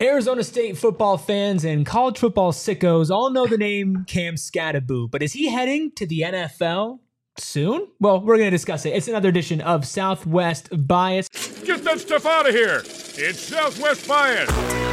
Arizona State football fans and college football sickos all know the name Cam Skattebo, but is he heading to the NFL soon? Well, we're going to discuss it. It's another edition of Southwest Bias. Get that stuff out of here. It's Southwest Bias.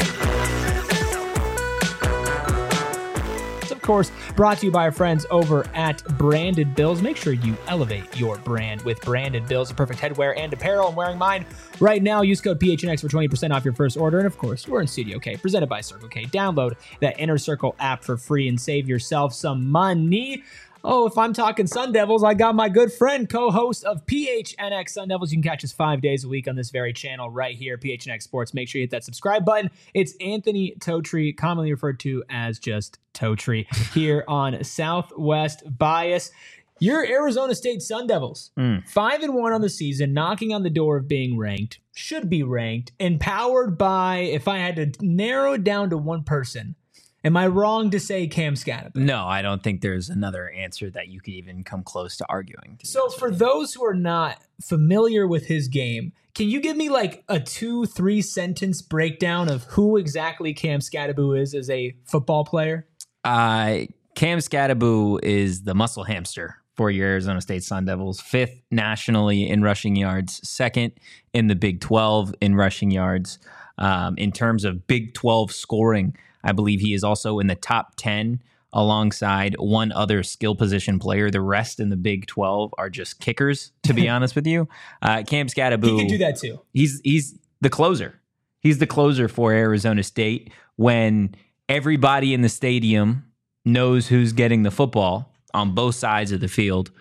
Of course, brought to you by our friends over at Branded Bills. Make sure you elevate your brand with Branded Bills, a perfect headwear and apparel. I'm wearing mine right now. Use code PHNX for 20% off your first order. And of course, we're in Studio K, presented by Circle K. Download that Inner Circle app for free and save yourself some money. Oh, if I'm talking Sun Devils, I got my good friend, co-host of PHNX Sun Devils. You can catch us 5 days a week on this very channel right here, PHNX Sports. Make sure you hit that subscribe button. It's Anthony Totri, commonly referred to as just Totri, here on Southwest Bias. Your Arizona State Sun Devils, 5-1 on the season, knocking on the door of being ranked, should be ranked, empowered by, if I had to narrow it down to one person, am I wrong to say Cam Skattebo? No, I don't think there's another answer that you could even come close to arguing. So for those who are not familiar with his game, can you give me like a 2-3 sentence breakdown of who exactly Cam Skattebo is as a football player? Cam Skattebo is the muscle hamster for your Arizona State Sun Devils, 5th nationally in rushing yards, 2nd in the Big 12 in rushing yards. In terms of Big 12 scoring, I believe he is also in the top 10 alongside one other skill position player. The rest in the Big 12 are just kickers, to be honest with you. Cam Skattebo, He can do that too. He's the closer. He's the closer for Arizona State when everybody in the stadium knows who's getting the football on both sides of the field.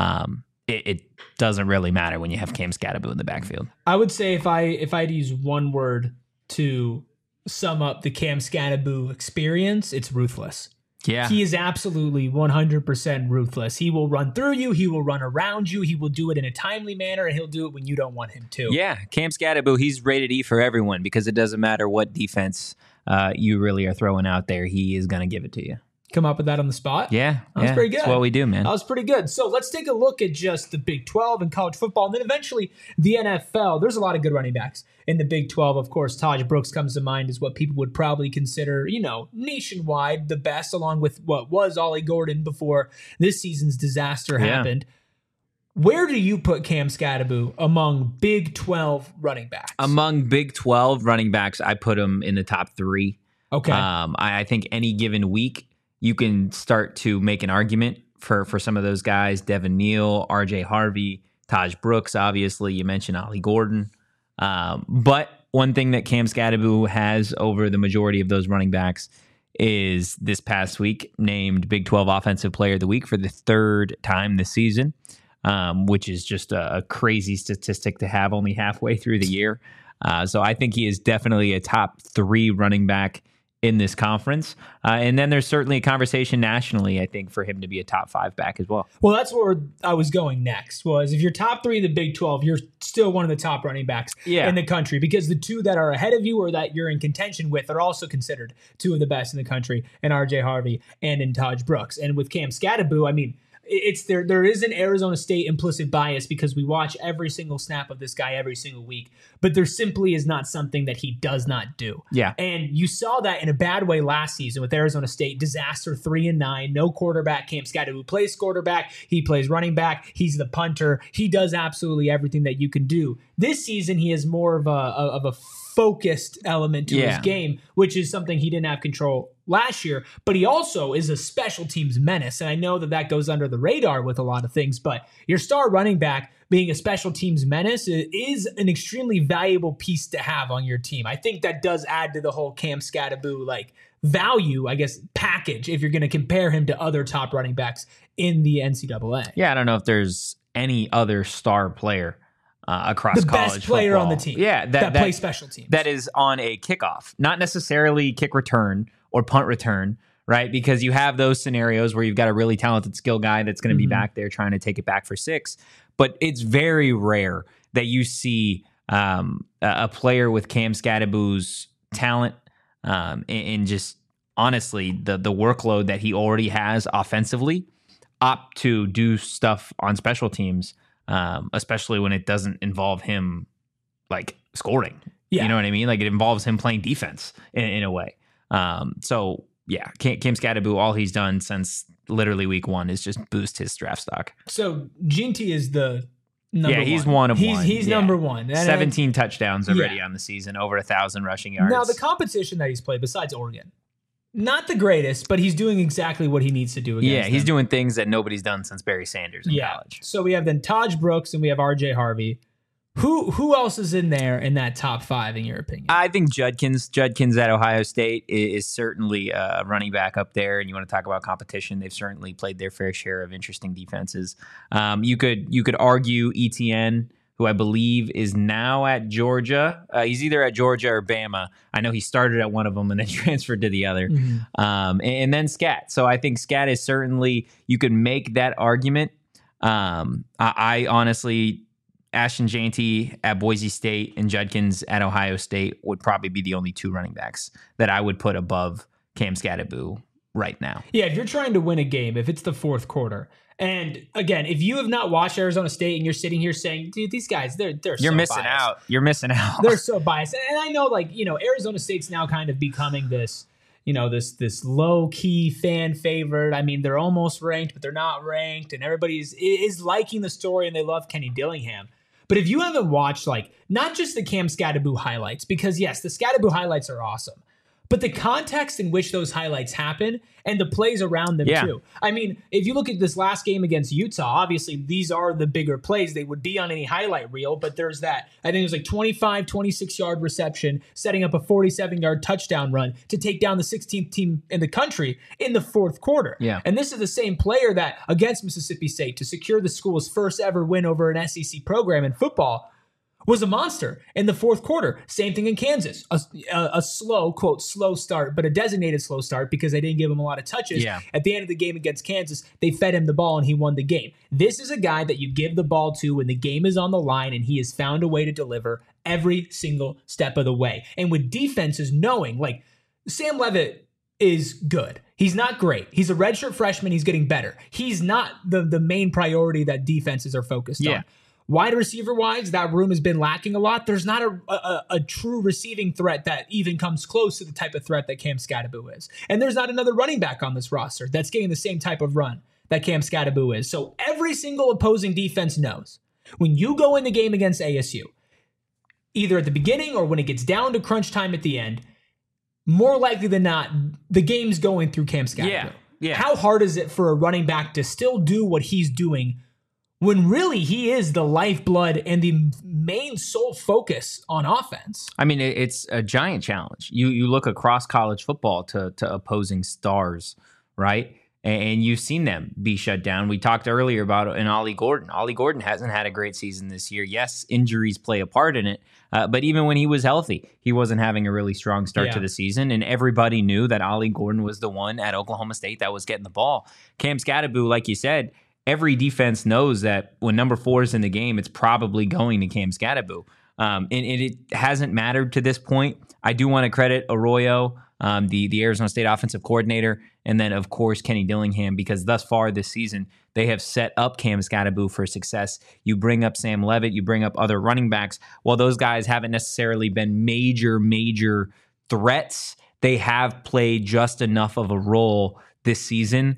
It doesn't really matter when you have Cam Skattebo in the backfield. I would say if I had to use one word to sum up the Cam Skattebo experience, it's ruthless. Yeah. He is absolutely 100% ruthless. He will run through you. He will run around you. He will do it in a timely manner, and he'll do it when you don't want him to. Yeah, Cam Skattebo, he's rated E for everyone because it doesn't matter what defense you really are throwing out there. He is going to give it to you. Come up with that on the spot? Yeah. That was pretty good. That's what we do, man. That was pretty good. So let's take a look at just the Big 12 and college football, and then eventually the NFL. There's a lot of good running backs in the Big 12. Of course, Taj Brooks comes to mind as what people would probably consider, nationwide the best, along with what was Ollie Gordon before this season's disaster happened. Where do you put Cam Skattebo among Big 12 running backs? Among Big 12 running backs, I put him in the top 3. Okay. I think any given week, you can start to make an argument for some of those guys. Devin Neal, RJ Harvey, Taj Brooks, obviously. You mentioned Ollie Gordon. But one thing that Cam Skattebo has over the majority of those running backs is this past week named Big 12 Offensive Player of the Week for the 3rd time this season, which is just a crazy statistic to have only halfway through the year. So I think he is definitely a top 3 running back in this conference. And then there's certainly a conversation nationally, I think, for him to be a top 5 back as well. Well, that's where I was going next, was if you're top 3 in the Big 12, you're still one of the top running backs in the country, because the 2 that are ahead of you or that you're in contention with are also considered 2 of the best in the country, in RJ Harvey and in Taj Brooks. And with Cam Skattebo, I mean, there is an Arizona State implicit bias because we watch every single snap of this guy every single week, but there simply is not something that he does not do. Yeah. And you saw that in a bad way last season with Arizona State. Disaster, 3-9, no quarterback. Cam Skattebo plays quarterback. He plays running back. He's the punter. He does absolutely everything that you can do. This season, he has more of a focused element to his game, which is something he didn't have control last year, but he also is a special teams menace. And I know that goes under the radar with a lot of things, but your star running back being a special teams menace is an extremely valuable piece to have on your team. I think that does add to the whole Cam Skattebo value, I guess, package if you're going to compare him to other top running backs in the NCAA. Yeah, I don't know if there's any other star player across the college best player football. on the team. Yeah, that plays special teams. That is on a kickoff, not necessarily kick return or punt return, right? Because you have those scenarios where you've got a really talented skill guy that's going to be back there trying to take it back for 6. But it's very rare that you see a player with Cam Skattebo's talent and just honestly the workload that he already has offensively opt to do stuff on special teams, especially when it doesn't involve him scoring. You know what I mean? Like it involves him playing defense in a way. So yeah, Cam Skattebo, all he's done since literally week 1 is just boost his draft stock. So Ginty is the number one. He's one of one. He's number one. 17 touchdowns already on the season, over 1,000 rushing yards. Now the competition that he's played besides Oregon, not the greatest, but he's doing exactly what he needs to do against he's them. doing things that nobody's done since Barry Sanders in college. So we have then Taj Brooks and we have RJ Harvey. Who else is in there in that top 5 in your opinion? I think Judkins at Ohio State is certainly a running back up there. And you want to talk about competition? They've certainly played their fair share of interesting defenses. You could argue Etienne, who I believe is now at Georgia. He's either at Georgia or Bama. I know he started at one of them and then transferred to the other. And then Scat. So I think Scat is certainly, you could make that argument. I honestly, Ashton Jeanty at Boise State and Judkins at Ohio State would probably be the only 2 running backs that I would put above Cam Skattebo right now. Yeah, if you're trying to win a game, if it's the fourth quarter, and again, if you have not watched Arizona State and you're sitting here saying, dude, these guys, they're You're so missing biased. out. You're missing out. They're so biased. And I know, like, Arizona State's now kind of becoming this, this low-key fan favorite. I mean, they're almost ranked, but they're not ranked, and everybody is liking the story, and they love Kenny Dillingham. But if you haven't watched, like, not just the Cam Skattebo highlights, because yes, the Skattebo highlights are awesome, but the context in which those highlights happen and the plays around them too. I mean, if you look at this last game against Utah, obviously these are the bigger plays. They would be on any highlight reel, but there's that, I think it was like 25, 26-yard reception, setting up a 47-yard touchdown run to take down the 16th team in the country in the fourth quarter. Yeah. And this is the same player that against Mississippi State to secure the school's first ever win over an SEC program in football was a monster in the fourth quarter. Same thing in Kansas. A slow, quote, slow start, but a designated slow start because they didn't give him a lot of touches. Yeah. At the end of the game against Kansas, they fed him the ball and he won the game. This is a guy that you give the ball to when the game is on the line, and he has found a way to deliver every single step of the way. And with defenses knowing, like, Sam Leavitt is good. He's not great. He's a redshirt freshman. He's getting better. He's not the main priority that defenses are focused on. Wide receiver wise, that room has been lacking a lot. There's not a true receiving threat that even comes close to the type of threat that Cam Skattebo is. And there's not another running back on this roster that's getting the same type of run that Cam Skattebo is. So every single opposing defense knows when you go in the game against ASU, either at the beginning or when it gets down to crunch time at the end, more likely than not, the game's going through Cam Skattebo. Yeah. How hard is it for a running back to still do what he's doing when really he is the lifeblood and the main sole focus on offense? I mean, it's a giant challenge. You look across college football to opposing stars, right? And you've seen them be shut down. We talked earlier about an Ollie Gordon. Ollie Gordon hasn't had a great season this year. Yes, injuries play a part in it, but even when he was healthy, he wasn't having a really strong start to the season, and everybody knew that Ollie Gordon was the one at Oklahoma State that was getting the ball. Cam Skattebo, like you said, every defense knows that when number 4 is in the game, it's probably going to Cam Skattebo. And it hasn't mattered to this point. I do want to credit Arroyo, the Arizona State offensive coordinator, and then, of course, Kenny Dillingham, because thus far this season, they have set up Cam Skattebo for success. You bring up Sam Leavitt, you bring up other running backs. While those guys haven't necessarily been major threats, they have played just enough of a role this season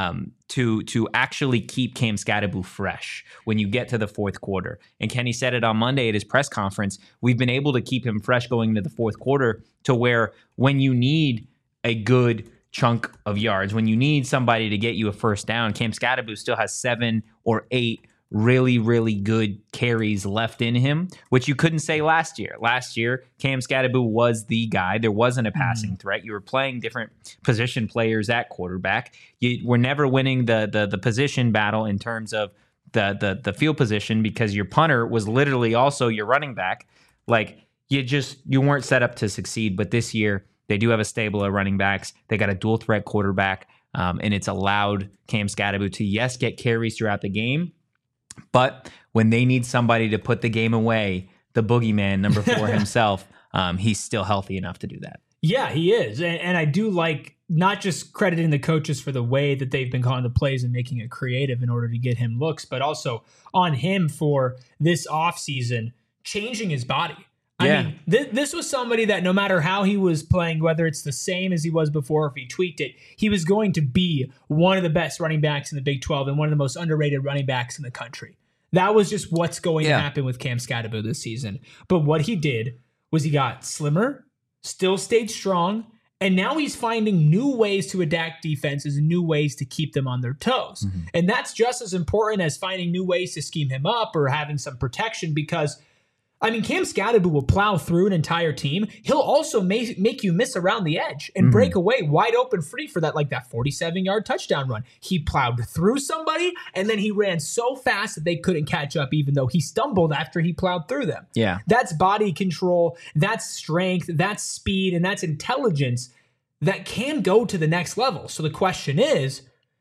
to actually keep Cam Skattebo fresh when you get to the fourth quarter. And Kenny said it on Monday at his press conference. We've been able to keep him fresh going into the fourth quarter to where when you need a good chunk of yards, when you need somebody to get you a first down, Cam Skattebo still has 7 or 8 really good carries left in him, which you couldn't say last year. Last year, Cam Skattebo was the guy. There wasn't a passing threat. You were playing different position players at quarterback. You were never winning the position battle in terms of the field position because your punter was literally also your running back. Like you weren't set up to succeed. But this year, they do have a stable of running backs. They got a dual threat quarterback, and it's allowed Cam Skattebo to, yes, get carries throughout the game. But when they need somebody to put the game away, the boogeyman, number 4 himself, he's still healthy enough to do that. Yeah, he is. And I do like not just crediting the coaches for the way that they've been calling the plays and making it creative in order to get him looks, but also on him for this offseason changing his body. I mean, this was somebody that no matter how he was playing, whether it's the same as he was before, if he tweaked it, he was going to be one of the best running backs in the Big 12 and one of the most underrated running backs in the country. That was just what's going to happen with Cam Skattebo this season. But what he did was he got slimmer, still stayed strong, and now he's finding new ways to adapt defenses and new ways to keep them on their toes. Mm-hmm. And that's just as important as finding new ways to scheme him up or having some protection because I mean, Cam Skattebo will plow through an entire team. He'll also make you miss around the edge and break away wide open free for that 47-yard touchdown run. He plowed through somebody, and then he ran so fast that they couldn't catch up, even though he stumbled after he plowed through them. Yeah, that's body control, that's strength, that's speed, and that's intelligence that can go to the next level. So the question is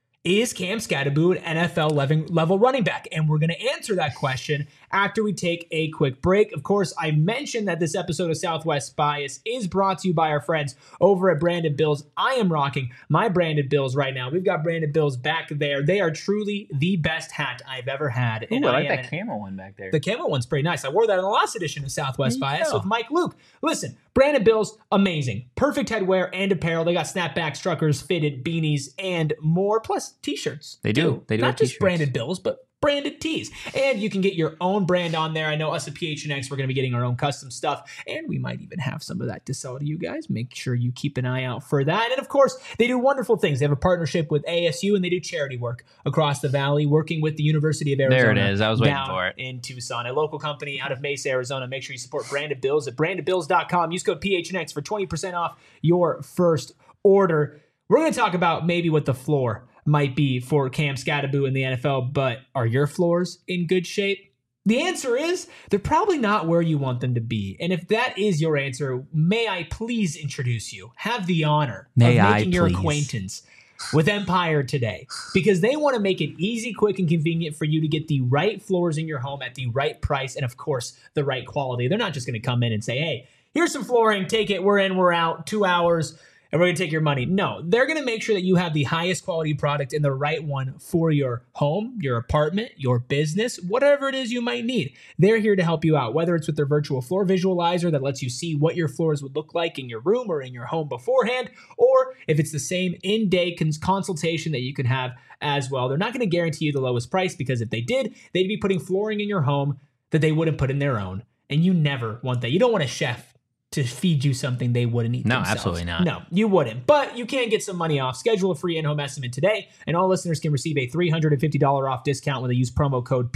Cam Skattebo an NFL level running back? And we're going to answer that question after we take a quick break. Of course, I mentioned that this episode of Southwest Bias is brought to you by our friends over at Branded Bills. I am rocking my Branded Bills right now. We've got Branded Bills back there. They are truly the best hat I've ever had. Ooh, I like that camo one back there. The camo one's pretty nice. I wore that in the last edition of Southwest Bias with Mike Luke. Listen, Branded Bills, amazing. Perfect headwear and apparel. They got snapback, truckers, fitted, beanies, and more, plus t-shirts. They do. They do. Not just Branded Bills, but branded tees. And you can get your own brand on there. I know us at PHNX, we're going to be getting our own custom stuff, and we might even have some of that to sell to you guys. Make sure you keep an eye out for that. And of course, they do wonderful things. They have a partnership with ASU, and they do charity work across the valley, working with the University of Arizona. There it is. I was waiting for it. In Tucson, a local company out of Mesa, Arizona. Make sure you support Branded Bills at brandedbills.com. Use code PHNX for 20% off your first order. We're going to talk about maybe what the floor might be for Cam Skattebo in the NFL, but are your floors in good shape? The answer is they're probably not where you want them to be. And if that is your answer, may I please introduce you, have the honor of making your acquaintance with Empire today, because they want to make it easy, quick, and convenient for you to get the right floors in your home at the right price and, of course, the right quality. They're not just going to come in and say, hey, here's some flooring, take it, we're in, we're out, 2 hours, and we're going to take your money. No, they're going to make sure that you have the highest quality product and the right one for your home, your apartment, your business, whatever it is you might need. They're here to help you out, whether it's with their virtual floor visualizer that lets you see what your floors would look like in your room or in your home beforehand, or if it's the same in-day consultation that you can have as well. They're not going to guarantee you the lowest price, because if they did, they'd be putting flooring in your home that they wouldn't put in their own. And you never want that. You don't want a chef to feed you something they wouldn't eat themselves. No, absolutely not. No, you wouldn't. But you can get some money off. Schedule a free in-home estimate today, and all listeners can receive a $350 off discount when they use promo code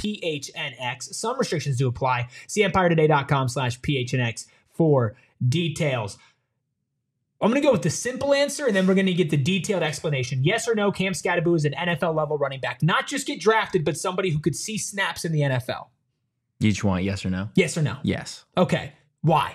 PHNX. Some restrictions do apply. See EmpireToday.com/PHNX for details. I'm going to go with the simple answer, and then we're going to get the detailed explanation. Yes or no, Cam Skattebo is an NFL-level running back. Not just get drafted, but somebody who could see snaps in the NFL. You just want yes or no? Yes or no? Yes. Okay. Why?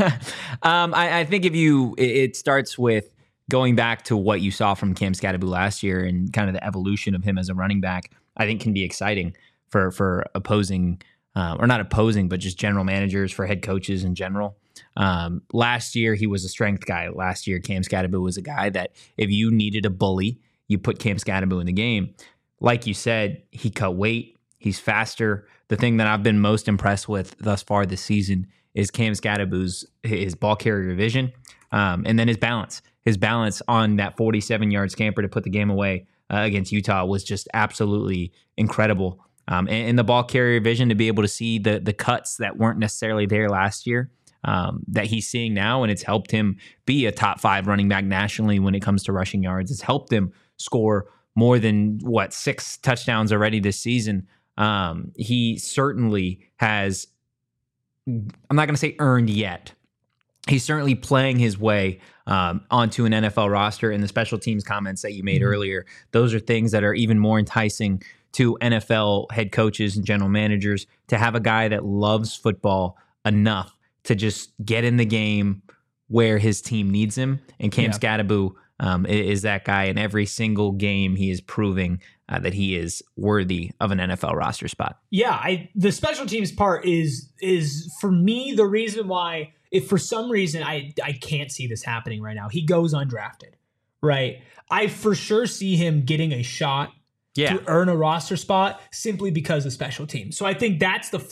I think it starts with going back to what you saw from Cam Skattebo last year and kind of the evolution of him as a running back. I think can be exciting for opposing, or not opposing, but just general managers, for head coaches in general. Last year, he was a strength guy. Last year, Cam Skattebo was a guy that if you needed a bully, you put Cam Skattebo in the game. Like you said, he cut weight. He's faster. The thing that I've been most impressed with thus far this season is Cam Skattebo's his ball carrier vision, and then his balance. His balance on that 47-yard scamper to put the game away against Utah was just absolutely incredible. And the ball carrier vision to be able to see the cuts that weren't necessarily there last year that he's seeing now, and it's helped him be a top 5 running back nationally when it comes to rushing yards. It's helped him score more than 6 touchdowns already this season. He certainly has, I'm not going to say earned yet. He's certainly playing his way onto an NFL roster, and the special teams comments that you made earlier, those are things that are even more enticing to NFL head coaches and general managers, to have a guy that loves football enough to just get in the game where his team needs him. And Cam Skattebo is that guy. In every single game, he is proving that he is worthy of an NFL roster spot. Yeah, the special teams part is for me the reason why, if for some reason I can't see this happening right now, he goes undrafted, right? I for sure see him getting a shot to earn a roster spot simply because of special teams. So I think that's the floor.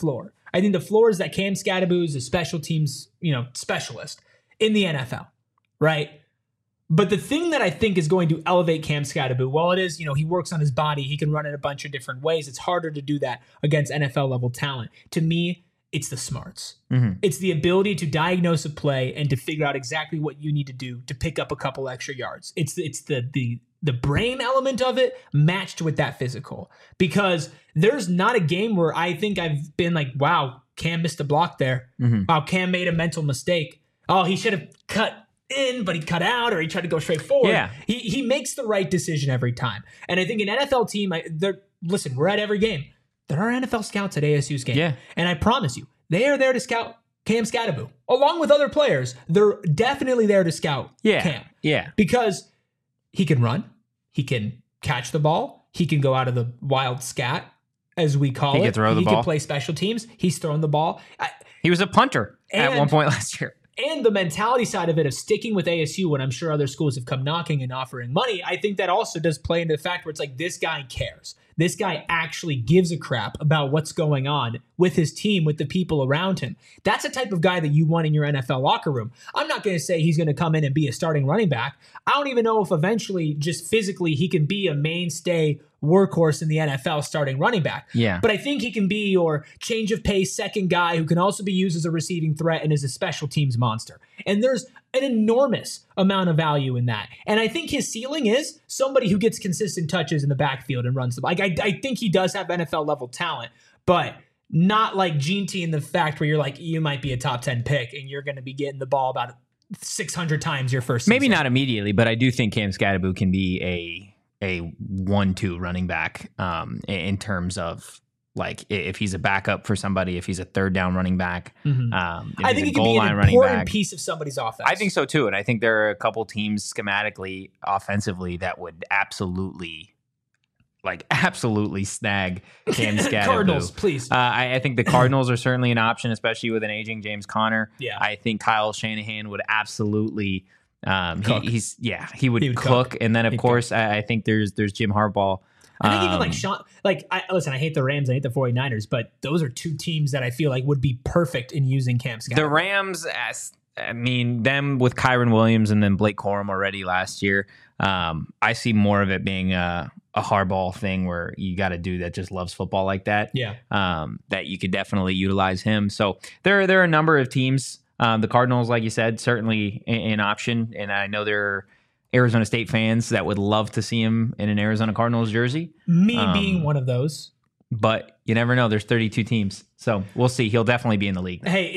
I think the floor is that Cam Skattebo is a special teams, specialist in the NFL, right? But the thing that I think is going to elevate Cam Skattebo, while it is, he works on his body, he can run in a bunch of different ways. It's harder to do that against NFL level talent. To me, it's the smarts. Mm-hmm. It's the ability to diagnose a play and to figure out exactly what you need to do to pick up a couple extra yards. It's the brain element of it matched with that physical. Because there's not a game where I think I've been like, wow, Cam missed a block there. Mm-hmm. Wow, Cam made a mental mistake. Oh, he should have cut in, but he cut out, or he tried to go straight forward. Yeah. He makes the right decision every time. And I think an NFL team, listen, we're at every game. There are NFL scouts at ASU's game. Yeah. And I promise you, they are there to scout Cam Skattebo. Along with other players, they're definitely there to scout Cam. Yeah. Because he can run, he can catch the ball, he can go out of the wild scat, as we call it. He can throw the ball. He can play special teams. He's thrown the ball. He was a punter at one point last year. And the mentality side of it of sticking with ASU when I'm sure other schools have come knocking and offering money, I think that also does play into the fact where it's like this guy cares. This guy actually gives a crap about what's going on with his team, with the people around him. That's the type of guy that you want in your NFL locker room. I'm not going to say he's going to come in and be a starting running back. I don't even know if eventually just physically he can be a mainstay workhorse in the NFL starting running back. Yeah. But I think he can be your change of pace second guy who can also be used as a receiving threat and is a special teams monster. And there's an enormous amount of value in that. And I think his ceiling is somebody who gets consistent touches in the backfield and runs the ball. Like I think he does have NFL level talent, but not like Gene T in the fact where you're like, you might be a top 10 pick and you're going to be getting the ball about 600 times your first season. Maybe not immediately, but I do think Cam Skattebo can be a 1-2 running back in terms of like if he's a backup for somebody, if he's a third down running back. Mm-hmm. I think he can be an important piece of somebody's offense. I think so too. And I think there are a couple teams schematically, offensively that would absolutely snag Cam Skattebo. Cardinals, please. I think the Cardinals are certainly an option, especially with an aging James Conner. Yeah. I think Kyle Shanahan would absolutely he would cook. And then of course I think there's Jim Harbaugh. I think even like Sean, listen, I hate the Rams, I hate the 49ers, but those are two teams that I feel like would be perfect in using Cam Skattebo. The Rams, them with Kyron Williams and then Blake Corum already last year. I see more of it being a Harbaugh thing where you got a dude that just loves football like that. Yeah. That you could definitely utilize him. So there are a number of teams. The Cardinals, like you said, certainly an option. And I know there are Arizona State fans that would love to see him in an Arizona Cardinals jersey. Me being one of those. But you never know. There's 32 teams. So we'll see. He'll definitely be in the league. Hey,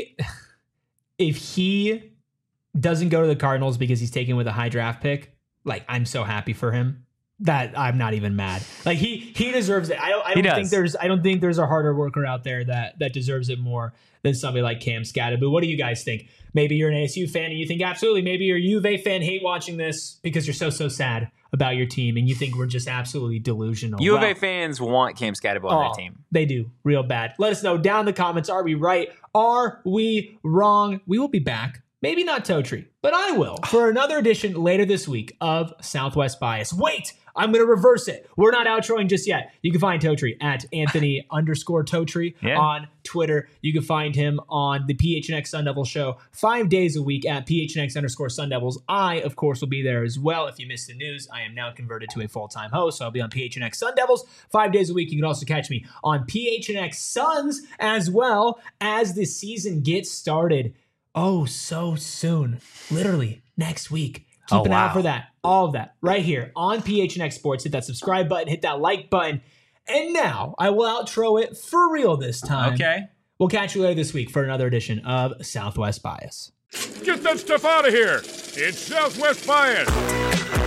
if he doesn't go to the Cardinals because he's taken with a high draft pick, like I'm so happy for him that I'm not even mad. Like he deserves it. I don't think there's a harder worker out there that deserves it more than somebody like Cam Skattebo. What do you guys think? Maybe you're an ASU fan and you think absolutely. Maybe you're a U of A fan, hate watching this because you're so sad about your team and you think we're just absolutely delusional. U of A fans want Cam Skattebo on their team. They do, real bad. Let us know down in the comments. Are we right? Are we wrong? We will be back. Maybe not Totri, but I will for another edition later this week of Southwest Bias. Wait, I'm going to reverse it. We're not outroing just yet. You can find Totri at Anthony_Totri on Twitter. You can find him on the PHNX Sun Devils show 5 days a week at PHNX_Sun Devils. I, of course, will be there as well. If you missed the news, I am now converted to a full-time host, so I'll be on PHNX Sun Devils 5 days a week. You can also catch me on PHNX Suns as well as the season gets started. Oh, so soon. Literally next week. Keep an eye out for that. All of that right here on PHNX Sports. Hit that subscribe button. Hit that like button. And now I will outro it for real this time. Okay. We'll catch you later this week for another edition of Southwest Bias. Get that stuff out of here. It's Southwest Bias.